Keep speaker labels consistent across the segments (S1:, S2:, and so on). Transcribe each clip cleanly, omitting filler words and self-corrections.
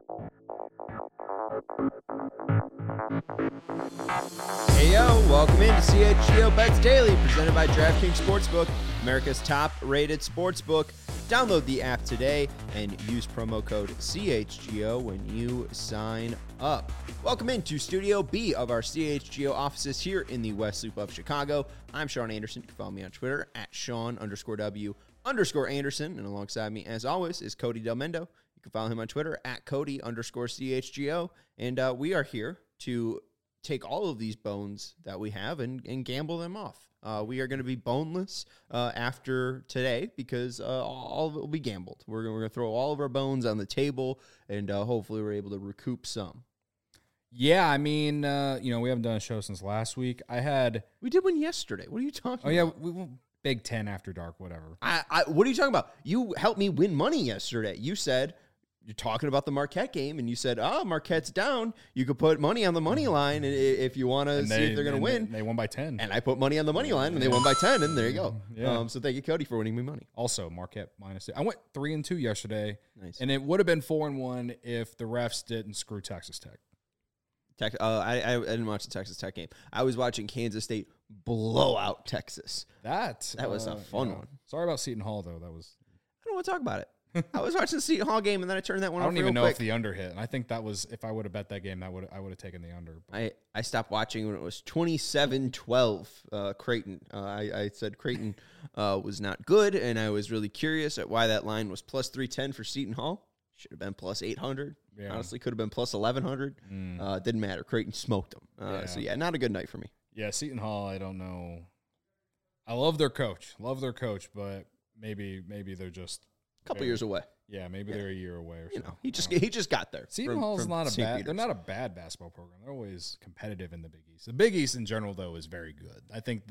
S1: Hey yo, welcome into CHGO Bets Daily, presented by DraftKings Sportsbook, America's top-rated sportsbook. Download the app today and use promo code CHGO when you sign up. Welcome into Studio B of our CHGO offices here in the West Loop of Chicago. I'm Sean Anderson. You can follow me on Twitter at Sean_W_Anderson. And alongside me, as always, is Cody Del Mendo. You can follow him on Twitter at Cody_CHGO. And we are here to take all of these bones that we have and gamble them off. We are going to be boneless after today because all of it will be gambled. We're going to throw all of our bones on the table, and hopefully we're able to recoup some.
S2: Yeah, I mean, we haven't done a show since last week.
S1: We did one yesterday. What are you talking about?
S2: Oh, yeah, Big Ten After Dark, whatever.
S1: What are you talking about? You helped me win money yesterday. You said... You're talking about the Marquette game, and you said, Marquette's down. You could put money on the money line if you want to see if they're going to win.
S2: They won by 10.
S1: And I put money on the money line, and they won by 10, and there you go.
S2: Yeah.
S1: So thank you, Cody, for winning me money.
S2: Also, Marquette -2. I went 3-2 yesterday,
S1: Nice.
S2: and it would have been 4-1 if the refs didn't screw Texas Tech.
S1: I didn't watch the Texas Tech game. I was watching Kansas State blow out Texas.
S2: That
S1: was a fun one.
S2: Sorry about Seton Hall, though. I don't
S1: want to talk about it. I was watching the Seton Hall game, and then I turned that one off.
S2: I don't even know
S1: quick.
S2: if the under hit. And I think that was, if I would have bet that game, I would have taken the under.
S1: I stopped watching when it was 27-12 Creighton. I said Creighton was not good, and I was really curious at why that line was plus 310 for Seton Hall. Should have been plus 800.
S2: Yeah.
S1: Honestly, could have been plus 1100. Didn't matter. Creighton smoked them. So, not a good night for me.
S2: Yeah, Seton Hall, I don't know. I love their coach. But maybe they're just...
S1: Couple years away.
S2: Yeah, maybe they're a year away or something.
S1: He just got there.
S2: Seton Hall's they're not a bad basketball program. They're always competitive in the Big East. The Big East in general, though, is very good. I think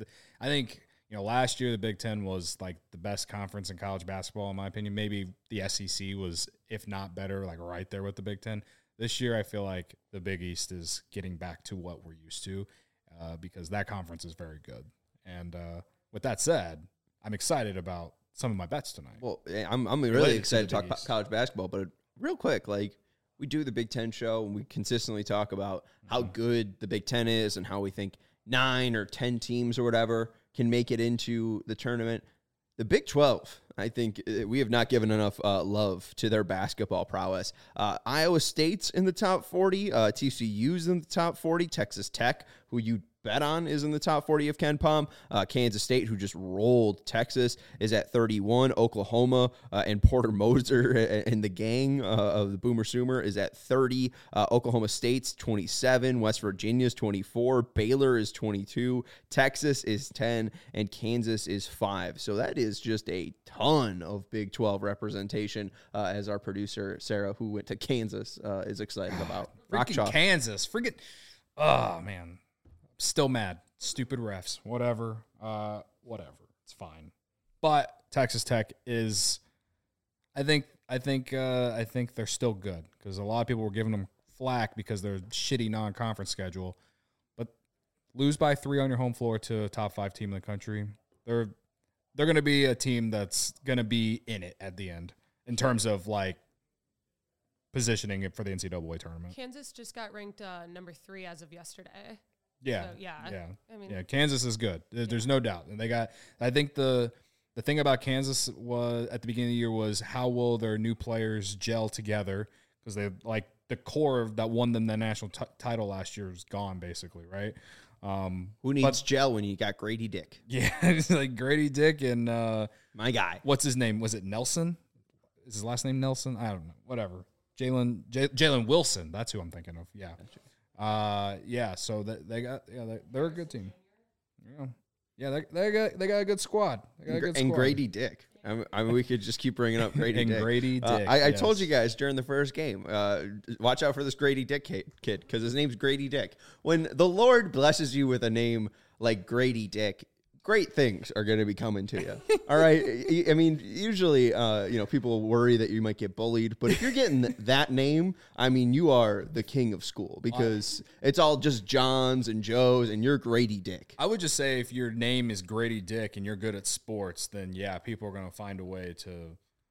S2: last year the Big Ten was like the best conference in college basketball, in my opinion. Maybe the SEC was, if not better, like right there with the Big Ten. This year, I feel like the Big East is getting back to what we're used to because that conference is very good. And with that said, I'm excited about some of my bets tonight.
S1: Well, I'm really excited to talk about college basketball, but real quick, like we do the Big Ten show and we consistently talk about how good the Big Ten is and how we think 9 or 10 teams or whatever can make it into the tournament. The Big 12, I think we have not given enough love to their basketball prowess. Iowa State's in the top 40. TCU's in the top 40. Texas Tech, who you bet on, is in the top 40 of Ken Pom. Kansas State, who just rolled Texas, is at 31. Oklahoma and Porter Moser and the gang of the Boomer Sooner is at 30. Oklahoma State's 27. West Virginia's 24. Baylor is 22. Texas is 10. And Kansas is 5. So that is just a ton of Big 12 representation, as our producer, Sarah, who went to Kansas, is excited about.
S2: Freaking Kansas. Oh, man. Still mad. Stupid refs. Whatever. It's fine. But Texas Tech is, I think they're still good because a lot of people were giving them flack because they're shitty non-conference schedule. But lose by 3 on your home floor to a top 5 team in the country. They're going to be a team that's going to be in it at the end in terms of like positioning it for the NCAA tournament.
S3: Kansas just got ranked number 3 as of yesterday.
S2: Yeah,
S3: so, I mean,
S2: Kansas is good. There's no doubt, and I think the thing about Kansas was at the beginning of the year was how will their new players gel together because they like the core that won them the national title last year is gone basically, right?
S1: Who needs gel when you got Grady Dick?
S2: Yeah, it's like Grady Dick and
S1: my guy.
S2: What's his name? Was it Nelson? Is his last name Nelson? I don't know. Whatever. Jalen Wilson. That's who I'm thinking of. Yeah. So they're a good team. They got a good squad.
S1: And Grady Dick. I mean, we could just keep bringing up Grady Dick.
S2: Grady Dick.
S1: I told you guys during the first game, watch out for this Grady Dick kid because his name's Grady Dick. When the Lord blesses you with a name like Grady Dick, great things are going to be coming to you. All right. I mean, usually, people worry that you might get bullied, but if you're getting that name, I mean, you are the king of school because it's all just Johns and Joes and you're Grady Dick.
S2: I would just say if your name is Grady Dick and you're good at sports, then yeah, people are going to find a way to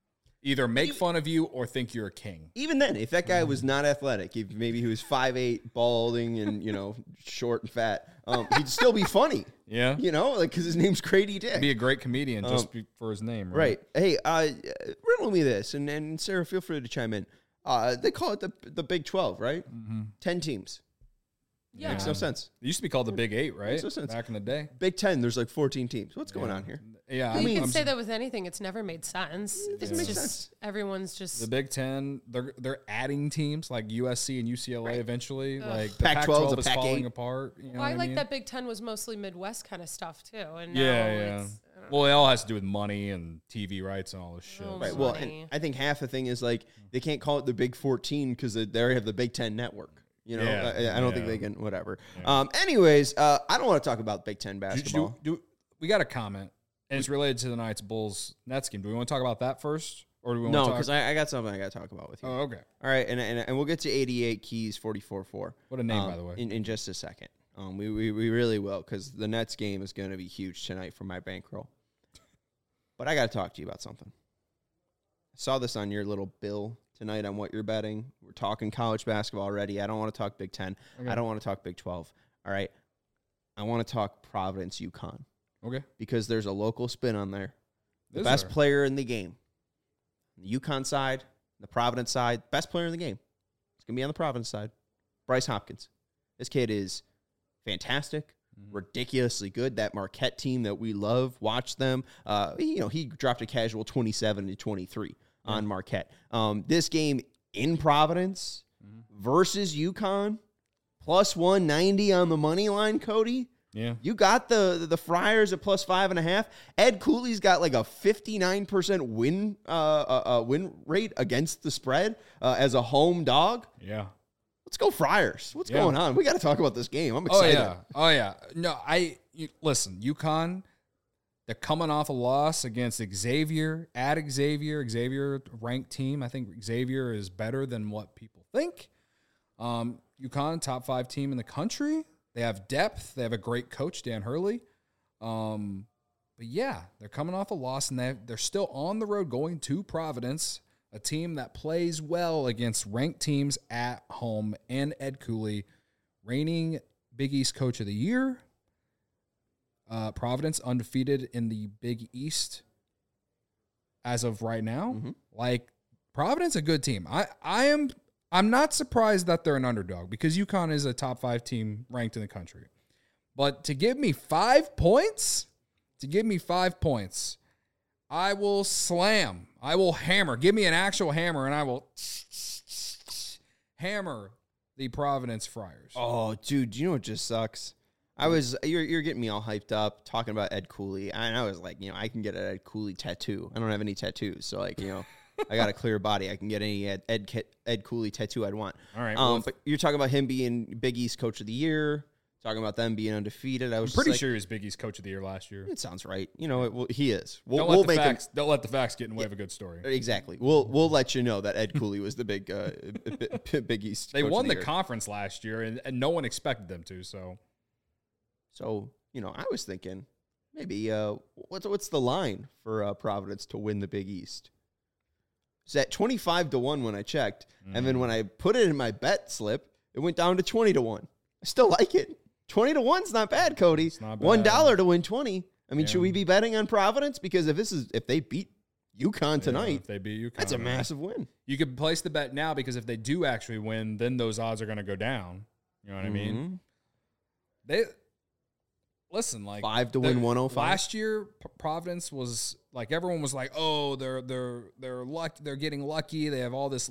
S2: either make fun of you or think you're a king.
S1: Even then, if that guy was not athletic, if maybe he was 5'8", balding, and short and fat, he'd still be funny.
S2: Yeah,
S1: because his name's Grady Dick.
S2: He'd be a great comedian just for his name,
S1: right? Hey, riddle me this, and Sarah, feel free to chime in. They call it the Big 12, right? 10 teams.
S3: Yeah.
S1: Makes no sense.
S2: It used to be called the Big 8, right?
S1: Makes no sense.
S2: Back in the day.
S1: Big 10, there's like 14 teams. What's going on here?
S2: Yeah,
S3: You can say that with anything. It's never made sense.
S1: It doesn't make sense.
S3: Everyone's just
S2: the Big 10. They're adding teams like USC and UCLA eventually. Like the
S1: Pac-12
S2: is falling apart. You know
S3: I
S2: mean?
S3: that Big 10 was mostly Midwest kind of stuff too. And now it's,
S2: well, it all has to do with money and TV rights and all this shit.
S1: Right. Well, and I think half the thing is like they can't call it the Big 14 because they already have the Big 10 network. I don't think they can. Whatever. Yeah. Anyways, I don't want to talk about Big 10 basketball.
S2: We got a comment, and it's related to the Knights Bulls Nets game. Do we want to talk about that first, or do we want to talk?
S1: No, because I got something I got to talk about with you.
S2: Oh, okay.
S1: All right, and we'll get to 88 Keys 44-4.
S2: What a name, by the way.
S1: In just a second. We really will, because the Nets game is going to be huge tonight for my bankroll. But I got to talk to you about something. I saw this on your little bill tonight on what you're betting. We're talking college basketball already. I don't want to talk Big 10. Okay. I don't want to talk Big 12. All right. I want to talk Providence, UConn.
S2: Okay.
S1: Because there's a local spin on there. The best player in the game. The UConn side, the Providence side, best player in the game. It's going to be on the Providence side. Bryce Hopkins. This kid is fantastic. Ridiculously good. That Marquette team that we love, watch them. He dropped a casual 27-23 on Marquette. This game in Providence versus UConn, plus 190 on the money line, Cody.
S2: Yeah,
S1: you got the Friars at plus 5.5. Ed Cooley's got like a 59% win rate against the spread as a home dog.
S2: Yeah.
S1: Let's go Friars. What's going on? We got to talk about this game. I'm excited.
S2: Oh, yeah. No, listen, UConn, they're coming off a loss against Xavier, Xavier ranked team. I think Xavier is better than what people think. UConn, top 5 team in the country. They have depth. They have a great coach, Dan Hurley. But yeah, they're coming off a loss, and they're still on the road going to Providence, a team that plays well against ranked teams at home, and Ed Cooley, reigning Big East Coach of the Year. Providence undefeated in the Big East as of right now. Like, Providence, a good team. I'm not surprised that they're an underdog because UConn is a top 5 team ranked in the country. But to give me 5 points, I will slam. I will hammer. Give me an actual hammer, and I will hammer the Providence Friars.
S1: Oh, dude, you know what just sucks? You're getting me all hyped up talking about Ed Cooley, and I was like, I can get an Ed Cooley tattoo. I don't have any tattoos, so I got a clear body. I can get any Ed Cooley tattoo I'd want.
S2: All right.
S1: But you're talking about him being Big East Coach of the Year. Talking about them being undefeated.
S2: I'm pretty sure he was Big East Coach of the Year last year.
S1: It sounds right. He is.
S2: Don't let the facts get in the way of a good story.
S1: Exactly. We'll let you know that Ed Cooley was the big Big East.
S2: They
S1: Coach
S2: won
S1: of the
S2: year. Conference last year, and no one expected them to. So
S1: I was thinking maybe what's the line for Providence to win the Big East? It's at 25-1 when I checked, and then when I put it in my bet slip, it went down to 20-1. I still like it. 20-1's not bad, Cody.
S2: It's not bad.
S1: $1 to win 20. I mean, should we be betting on Providence? Because if they beat UConn tonight,
S2: if they beat UConn,
S1: that's a massive win.
S2: You could place the bet now because if they do actually win, then those odds are going to go down. You know what I mean? Listen, like
S1: 5 to win 105.
S2: Last year, Providence was like everyone was like, oh, they're lucky, they're getting lucky. They have all the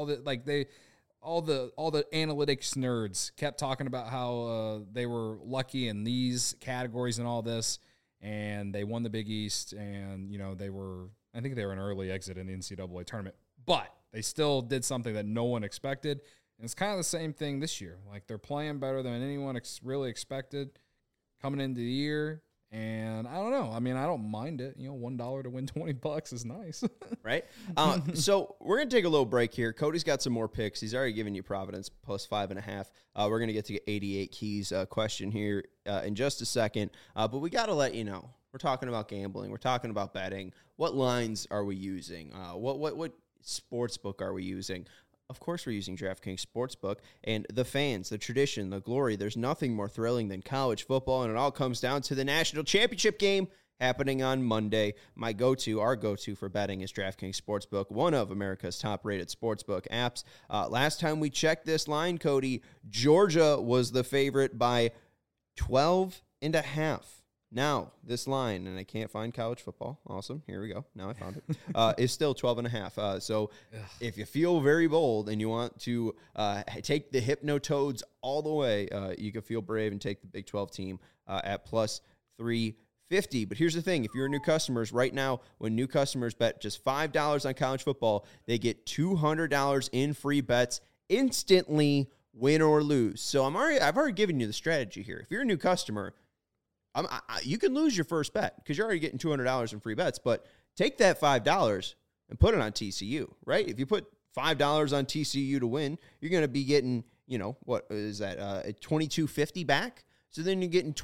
S2: analytics nerds kept talking about how they were lucky in these categories and all this, and they won the Big East, and I think they were an early exit in the NCAA tournament, but they still did something that no one expected, and it's kind of the same thing this year. Like, they're playing better than anyone really expected coming into the year. And I don't know. I mean, I don't mind it. $1 to win $20 is nice.
S1: Right? So we're going to take a little break here. Cody's got some more picks. He's already given you Providence plus 5.5. We're going to get to 88 Keys question here in just a second. But we got to let you know We're talking about gambling. We're talking about betting. What lines are we using? What sports book are we using? Of course, we're using DraftKings Sportsbook, and the fans, the tradition, the glory. There's nothing more thrilling than college football, and it all comes down to the national championship game happening on Monday. Our go-to for betting is DraftKings Sportsbook, one of America's top-rated sportsbook apps. Last time we checked this line, Cody, Georgia was the favorite by 12.5. Now, this line, and I can't find college football. Awesome. Here we go. Now I found it. Is still 12.5. So if you feel very bold and you want to take the Hypnotoads all the way, you can feel brave and take the Big 12 team at plus 350. But here's the thing. If you're new customers right now, when new customers bet just $5 on college football, they get $200 in free bets instantly, win or lose. So I've already given you the strategy here. If you're a new customer, you can lose your first bet because you're already getting $200 in free bets, but take that $5 and put it on TCU, right? If you put $5 on TCU to win, you're going to be getting, what is that, $22.50 back? So then you're getting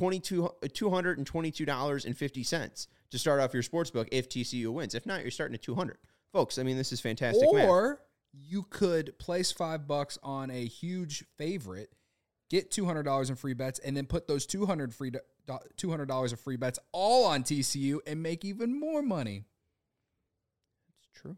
S1: $222.50 to start off your sportsbook if TCU wins. If not, you're starting at $200. Folks, I mean, this is fantastic math.
S2: Or you could place $5 on a huge favorite, get $200 in free bets, and then put those $200 of free bets all on TCU and make even more money.
S1: It's true.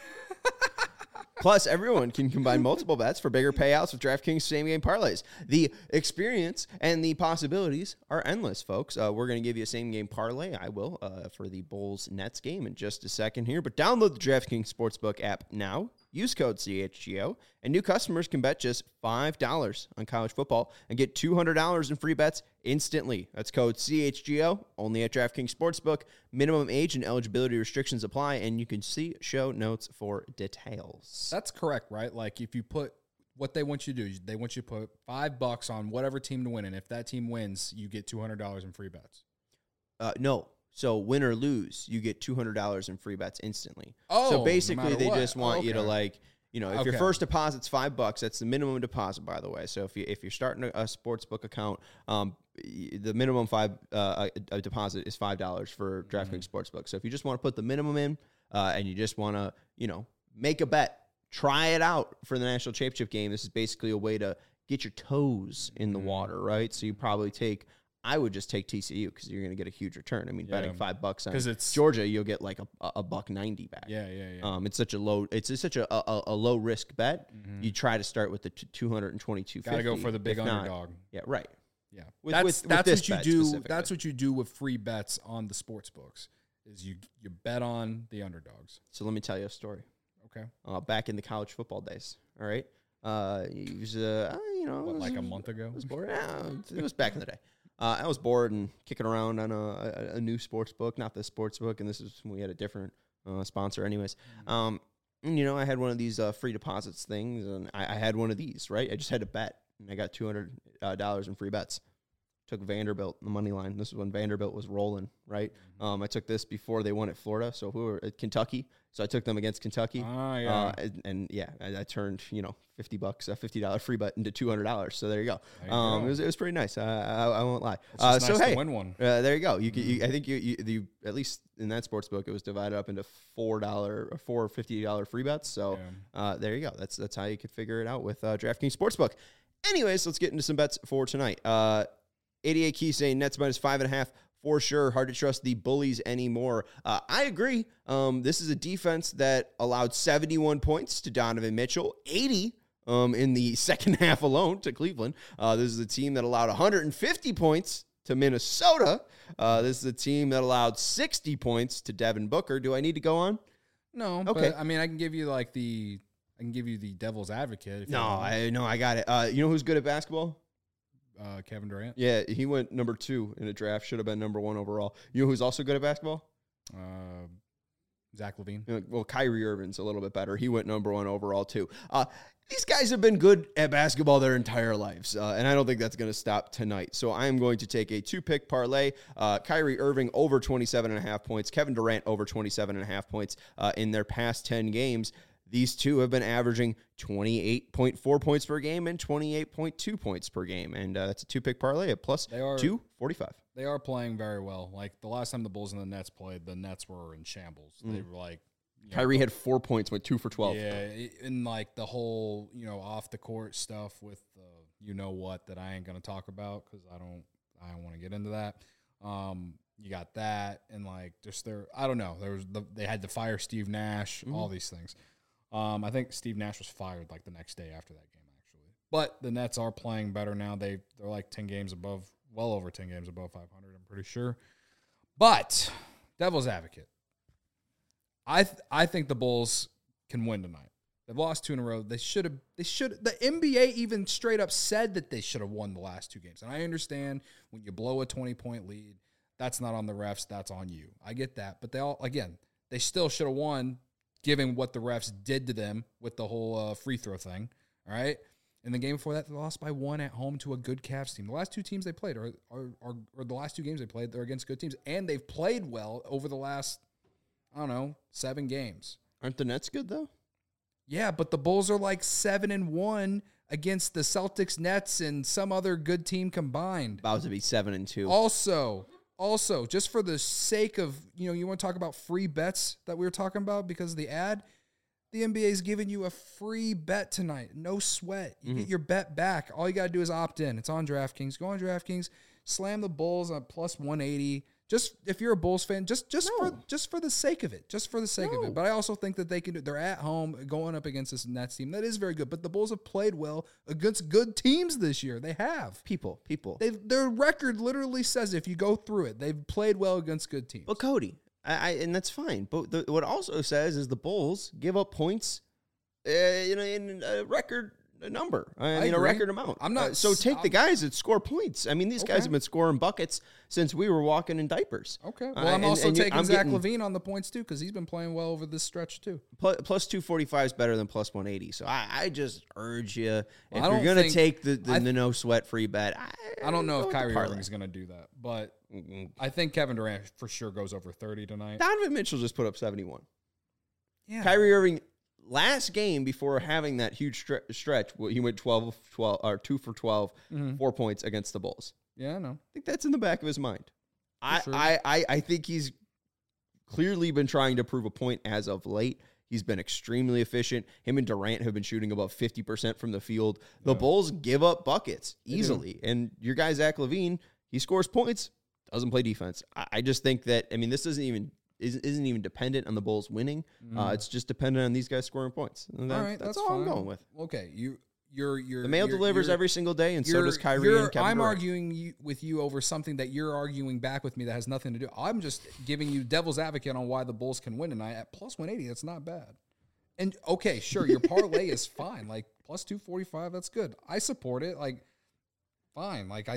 S1: Plus, everyone can combine multiple bets for bigger payouts with DraftKings same-game parlays. The experience and the possibilities are endless, folks. We're going to give you a same-game parlay. I will for the Bulls-Nets game in just a second here. But download the DraftKings Sportsbook app now. Use code CHGO, and new customers can bet just $5 on college football and get $200 in free bets instantly. That's code CHGO, only at DraftKings Sportsbook. Minimum age and eligibility restrictions apply, and you can see show notes for details.
S2: That's correct, right? Like, if you put what they want you to do, they want you to put $5 on whatever team to win, and if that team wins, you get $200 in free bets.
S1: No. So win or lose, you get $200 in free bets instantly.
S2: Oh,
S1: so basically
S2: no
S1: they
S2: what?
S1: just want you to if your first deposit's $5, that's the minimum deposit, by the way. So if you're starting a sportsbook account, the minimum deposit is $5 for DraftKings Sportsbook. So if you just want to put the minimum in and you just want to make a bet, try it out for the national championship game. This is basically a way to get your toes in the water, right? So you probably I would just take TCU because you're going to get a huge return. I mean, betting $5 on Georgia, you'll get like a $1.90 back.
S2: Yeah.
S1: It's such a low low risk bet. Mm-hmm. You try to start with the 222.
S2: Got to go for the big underdog.
S1: Yeah, right.
S2: Yeah,
S1: that's what you do.
S2: That's what you do with free bets on the sports books. Is you bet on the underdogs.
S1: So let me tell you a story.
S2: Okay.
S1: Back in the college football days. All right. It was
S2: like a month ago.
S1: It was boring. It was back in the day. I was bored and kicking around on a new sports book, not this sports book, and this is when we had a different sponsor anyways. I had one of these free deposits things, and I had one of these, right? I just had to bet, and I got $200 in free bets. Took Vanderbilt, the money line. This is when Vanderbilt was rolling, right? I took this before they won at Florida, so who were at Kentucky. So I took them against Kentucky.
S2: I
S1: turned $50, a $50 free bet into $200. So there you go. It was pretty nice. I won't lie.
S2: It's nice to win one.
S1: There you go. I think you at least in that sports book it was divided up into $4 or $50 free bets. So there you go. That's how you could figure it out with DraftKings Sportsbook. Anyways, let's get into some bets for tonight. 88 Key saying Nets minus 5.5 for sure. Hard to trust the Bullies anymore. I agree. This is a defense that allowed 71 points to Donovan Mitchell, 80 in the second half alone to Cleveland. This is a team that allowed 150 points to Minnesota. This is a team that allowed 60 points to Devin Booker. Do I need to go on?
S2: No. Okay. But, I mean, I can give you the devil's advocate.
S1: I got it. You know who's good at basketball?
S2: Kevin Durant.
S1: Yeah, he went number 2 in a draft. Should have been number 1 overall. You know who's also good at basketball?
S2: Zach LaVine.
S1: Well, Kyrie Irving's a little bit better. He went number 1 overall too. These guys have been good at basketball their entire lives, and I don't think that's going to stop tonight. So I am going to take a 2-pick parlay. Kyrie Irving over 27.5 points. Kevin Durant over 27.5 points in their past 10 games. These two have been averaging 28.4 points per game and 28.2 points per game. And that's a 2-pick parlay at plus 245.
S2: They are playing very well. Like the last time the Bulls and the Nets played, the Nets were in shambles. They were like,
S1: Kyrie had 4 points, went 2 for 12.
S2: Yeah, and like the whole off the court stuff with that I ain't gonna talk about because I don't want to get into that. You got that, and like just I don't know. They had to fire Steve Nash, all these things. I think Steve Nash was fired like the next day after that game, actually. But the Nets are playing better now. They're like 10 games above, well over 10 games above 500. I'm pretty sure. But devil's advocate, I think the Bulls can win tonight. They've lost 2 in a row. They should have. The NBA even straight up said that they should have won the last 2 games. And I understand when you blow a 20-point lead, that's not on the refs. That's on you. I get that. But they still should have won, given what the refs did to them with the whole free throw thing. All right. In the game before that, they lost by 1 at home to a good Cavs team. The last 2 teams they played are the last 2 games they played, they're against good teams, and they've played well over the last 7 games.
S1: Aren't the Nets good though?
S2: Yeah, but the Bulls are like 7-1 against the Celtics, Nets, and some other good team combined.
S1: About to be 7-2.
S2: Also, just for the sake of, you want to talk about free bets that we were talking about because of the ad, the NBA is giving you a free bet tonight. No sweat. You get your bet back. All you got to do is opt in. It's on DraftKings. Go on DraftKings, slam the Bulls on plus 180. Just if you're a Bulls fan, just for the sake of it. Just for the sake of it. But I also think that they can do they're at home going up against this Nets team. That is very good. But the Bulls have played well against good teams this year. They have.
S1: People.
S2: Their record literally says if you go through it, they've played well against good teams.
S1: But Cody, and that's fine. But what also says is the Bulls give up points in a record number. A record amount.
S2: I'm not.
S1: The guys that score points. I mean, these guys have been scoring buckets since we were walking in diapers.
S2: Okay. Well, I'm also taking Zach LaVine on the points too because he's been playing well over this stretch too.
S1: Plus 245 is better than plus 180. So I just urge you if you're gonna take the no sweat free bet.
S2: I don't know if Kyrie Irving is gonna do that, but I think Kevin Durant for sure goes over 30 tonight.
S1: Donovan Mitchell just put up 71.
S2: Yeah.
S1: Kyrie Irving. Last game before having that huge stretch, he went 2 for 12, 4 points against the Bulls.
S2: Yeah, I know.
S1: I think that's in the back of his mind.
S2: Sure.
S1: I think he's clearly been trying to prove a point as of late. He's been extremely efficient. Him and Durant have been shooting about 50% from the field. The Bulls give up buckets easily. And your guy, Zach LaVine, he scores points, doesn't play defense. I just think that, this isn't even dependent on the Bulls winning. It's just dependent on these guys scoring points. And
S2: all right, that's
S1: all
S2: fine.
S1: I'm going with.
S2: Okay, you're
S1: the mail delivers every single day, and so does Kyrie and Kevin
S2: I'm
S1: Durant.
S2: arguing with you over something that you're arguing back with me that has nothing to do. I'm just giving you devil's advocate on why the Bulls can win tonight at plus 180. That's not bad. And okay, sure, your parlay is fine. Like plus 245, that's good. I support it. Like fine. Like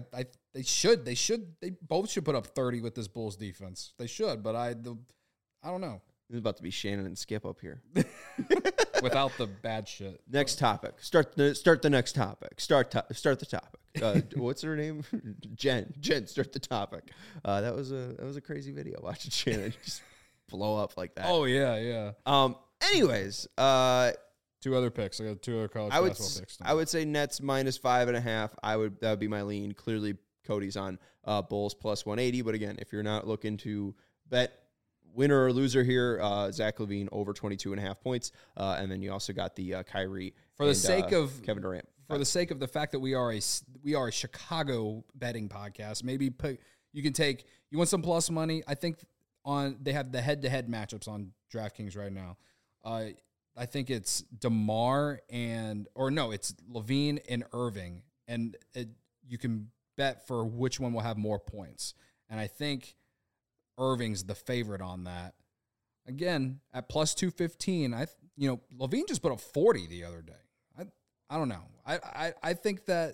S2: they both should put up 30 with this Bulls defense. They should, but I don't know.
S1: It's about to be Shannon and Skip up here.
S2: Without the bad shit.
S1: Next topic. Start the next topic. Start the topic. What's her name? Jen, start the topic. That was a crazy video watching Shannon just blow up like that.
S2: Oh yeah.
S1: Anyways,
S2: 2 other picks. I got 2 other college basketball picks.
S1: I would say Nets minus 5.5. That would be my lean. Clearly, Cody's on Bulls plus 180. But again, if you're not looking to bet winner or loser here, Zach LaVine over 22.5 points. And then you also got the Kyrie
S2: for the sake of
S1: Kevin Durant.
S2: For the sake of the fact that we are a Chicago betting podcast, maybe you want some plus money. I think they have the head-to-head matchups on DraftKings right now. I think it's DeMar it's LaVine and Irving, and you can bet for which one will have more points. And I think Irving's the favorite on that. Again, at plus 215, LaVine just put up 40 the other day. I don't know. I think that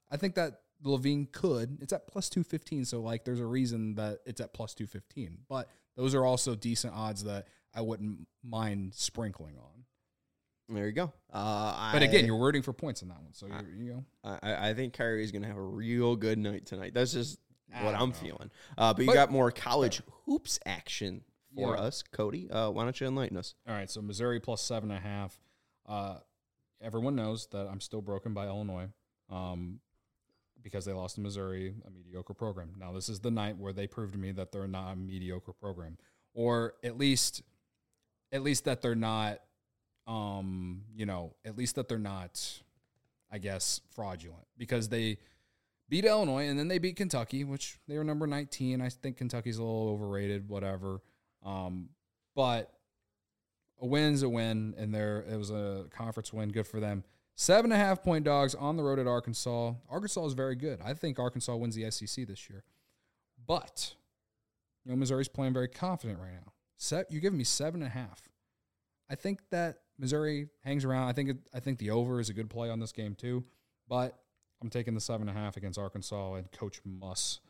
S2: LaVine could. It's at plus 215, so like there's a reason that it's at plus 215. But those are also decent odds that I wouldn't mind sprinkling on.
S1: There you go.
S2: But again, you're rooting for points in that one, so you go.
S1: I think Kyrie's going to have a real good night tonight. That's just what I'm feeling. But you got more college hoops action for us, Cody. Why don't you enlighten us?
S2: All right, so Missouri plus 7.5. Everyone knows that I'm still broken by Illinois. because they lost to Missouri, a mediocre program. Now, this is the night where they prove to me that they're not a mediocre program, or at least that they're not, at least that they're not, I guess, fraudulent, because they beat Illinois and then they beat Kentucky, which they were number 19. I think Kentucky's a little overrated, whatever. But a win's a win, and it was a conference win. Good for them. 7.5-point dogs on the road at Arkansas. Arkansas is very good. I think Arkansas wins the SEC this year. But, Missouri's playing very confident right now. You're giving me 7.5. I think that Missouri hangs around. I think the over is a good play on this game too. But I'm taking the 7.5 against Arkansas and Coach Muss.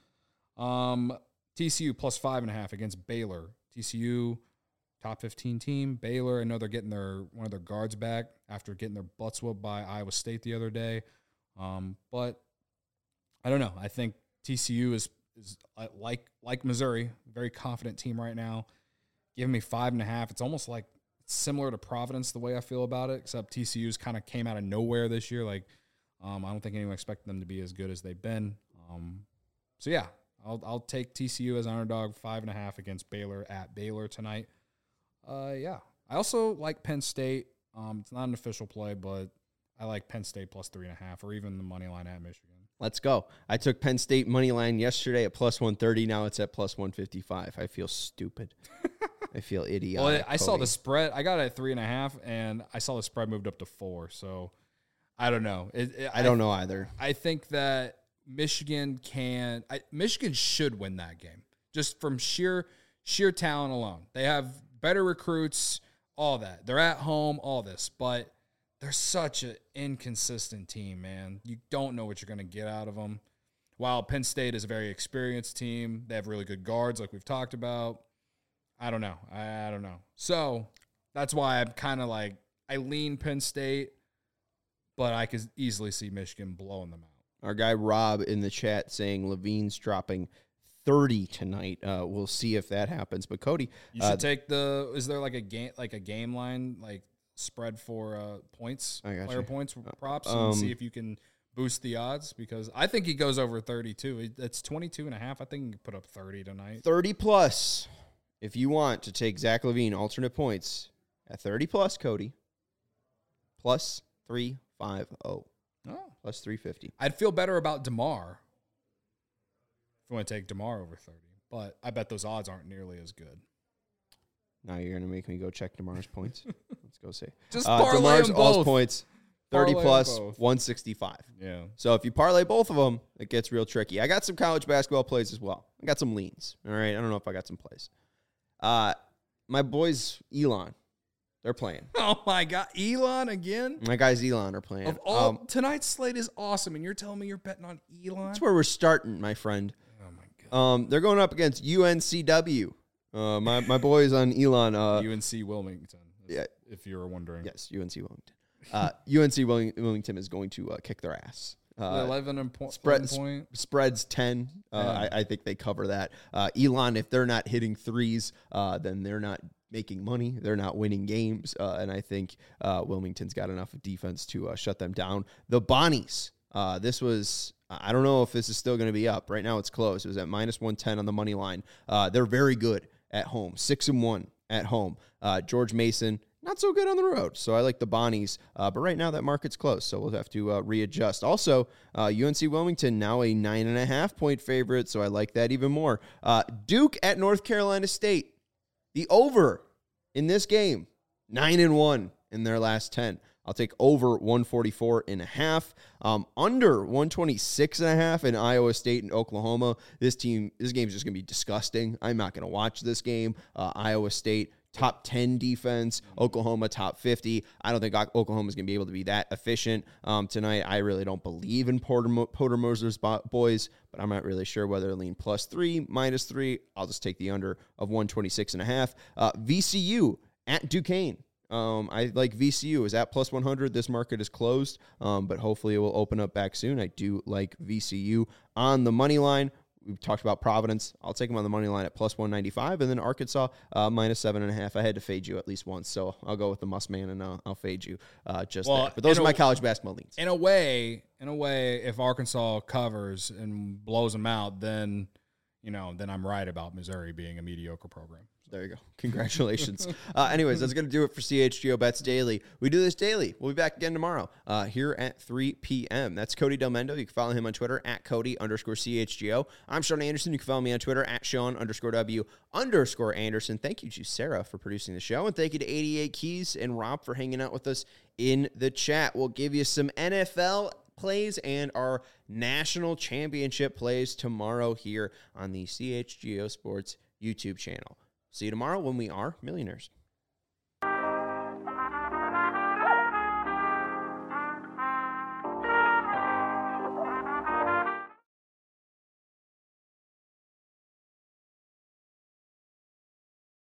S2: TCU plus 5.5 against Baylor. TCU, top 15 team. Baylor, I know they're getting one of their guards back after getting their butts whooped by Iowa State the other day. But I don't know. I think TCU is like Missouri, very confident team right now. Giving me 5.5. It's almost like similar to Providence the way I feel about it, except TCU's kind of came out of nowhere this year. Like, I don't think anyone expected them to be as good as they've been. So yeah, I'll take TCU as an underdog, 5.5 against Baylor at Baylor tonight. Yeah, I also like Penn State. It's not an official play, but I like Penn State plus 3.5, or even the money line at Michigan.
S1: Let's go. I took Penn State money line yesterday at plus 130. Now it's at plus 155. I feel stupid. I feel idiotic.
S2: Well, I saw the spread. I got it at 3.5, and I saw the spread moved up to 4. So I don't know.
S1: I don't know either.
S2: I think that Michigan should win that game just from sheer talent alone. They have better recruits, all that. They're at home, all this, but they're such an inconsistent team, man. You don't know what you're going to get out of them. While Penn State is a very experienced team, they have really good guards like we've talked about. I don't know. I don't know. So that's why I'm kind of like, I lean Penn State, but I could easily see Michigan blowing them out.
S1: Our guy Rob in the chat saying Levine's dropping 30 tonight. We'll see if that happens. But Cody,
S2: you should take is there like a game line, like spread for points, player points props, and see if you can boost the odds, because I think he goes over 32. It's 22.5. I think he can put up 30 tonight.
S1: 30 plus. If you want to take Zach LaVine alternate points at 30 plus, Cody, plus 350. Oh. Plus 350.
S2: I'd feel better about DeMar if you want to take DeMar over 30, but I bet those odds aren't nearly as good.
S1: Now you're going to make me go check DeMar's points. Let's go see.
S2: Just parlay
S1: DeMar's
S2: them both.
S1: Points, 30
S2: Parlay
S1: plus,
S2: both.
S1: 165.
S2: Yeah.
S1: So if you parlay both of them, it gets real tricky. I got some college basketball plays as well. I got some leans. All right. I don't know if I got some plays. My boys, Elon, they're playing.
S2: Oh, my God. Elon again?
S1: My guys, Elon, are playing.
S2: Of all, tonight's slate is awesome, and you're telling me you're betting on Elon?
S1: That's where we're starting, my friend.
S2: Oh, my God.
S1: They're going up against UNCW. My boys on Elon.
S2: UNC Wilmington,
S1: yeah,
S2: if you were wondering.
S1: Yes, UNC Wilmington. UNC Wilmington is going to kick their ass.
S2: 11
S1: spreads 10. I think they cover that. Elon, if they're not hitting threes, then they're not making money. They're not winning games. And I think Wilmington's got enough of defense to shut them down. The Bonnies. This was, I don't know if this is still going to be up. Right now it's closed. It was at minus 110 on the money line. They're very good at home. 6-1 at home. George Mason, not so good on the road. So I like the Bonnies. But right now that market's closed, so we'll have to readjust. Also, UNC Wilmington now a 9.5-point favorite, so I like that even more. Duke at North Carolina State. The over in this game, 9-1 in their last 10. I'll take over 144.5. Under 126.5 in Iowa State and Oklahoma. This game is just going to be disgusting. I'm not going to watch this game. Iowa State, top 10 defense. Oklahoma, top 50. I don't think Oklahoma's going to be able to be that efficient tonight. I really don't believe in Porter Moser's boys, but I'm not really sure whether to lean plus 3, minus 3. I'll just take the under of 126.5. VCU at Duquesne. I like VCU is at plus 100. This market is closed, but hopefully it will open up back soon. I do like VCU on the money line. we talked about Providence. I'll take them on the money line at plus 195, and then Arkansas minus 7.5. I had to fade you at least once, so I'll go with the must man, and I'll fade you there. But those are my college basketball leans.
S2: In a way, if Arkansas covers and blows them out, then I'm right about Missouri being a mediocre program.
S1: There you go. Congratulations. Anyways, that's going to do it for CHGO Bets Daily. We do this daily. We'll be back again tomorrow here at 3 p.m. That's Cody Del Mendo. You can follow him on Twitter at Cody_CHGO. I'm Sean Anderson. You can follow me on Twitter at Sean_W_Anderson. Thank you to Sarah for producing the show. And thank you to 88 Keys and Rob for hanging out with us in the chat. We'll give you some NFL plays and our national championship plays tomorrow here on the CHGO Sports YouTube channel. See you tomorrow when we are millionaires.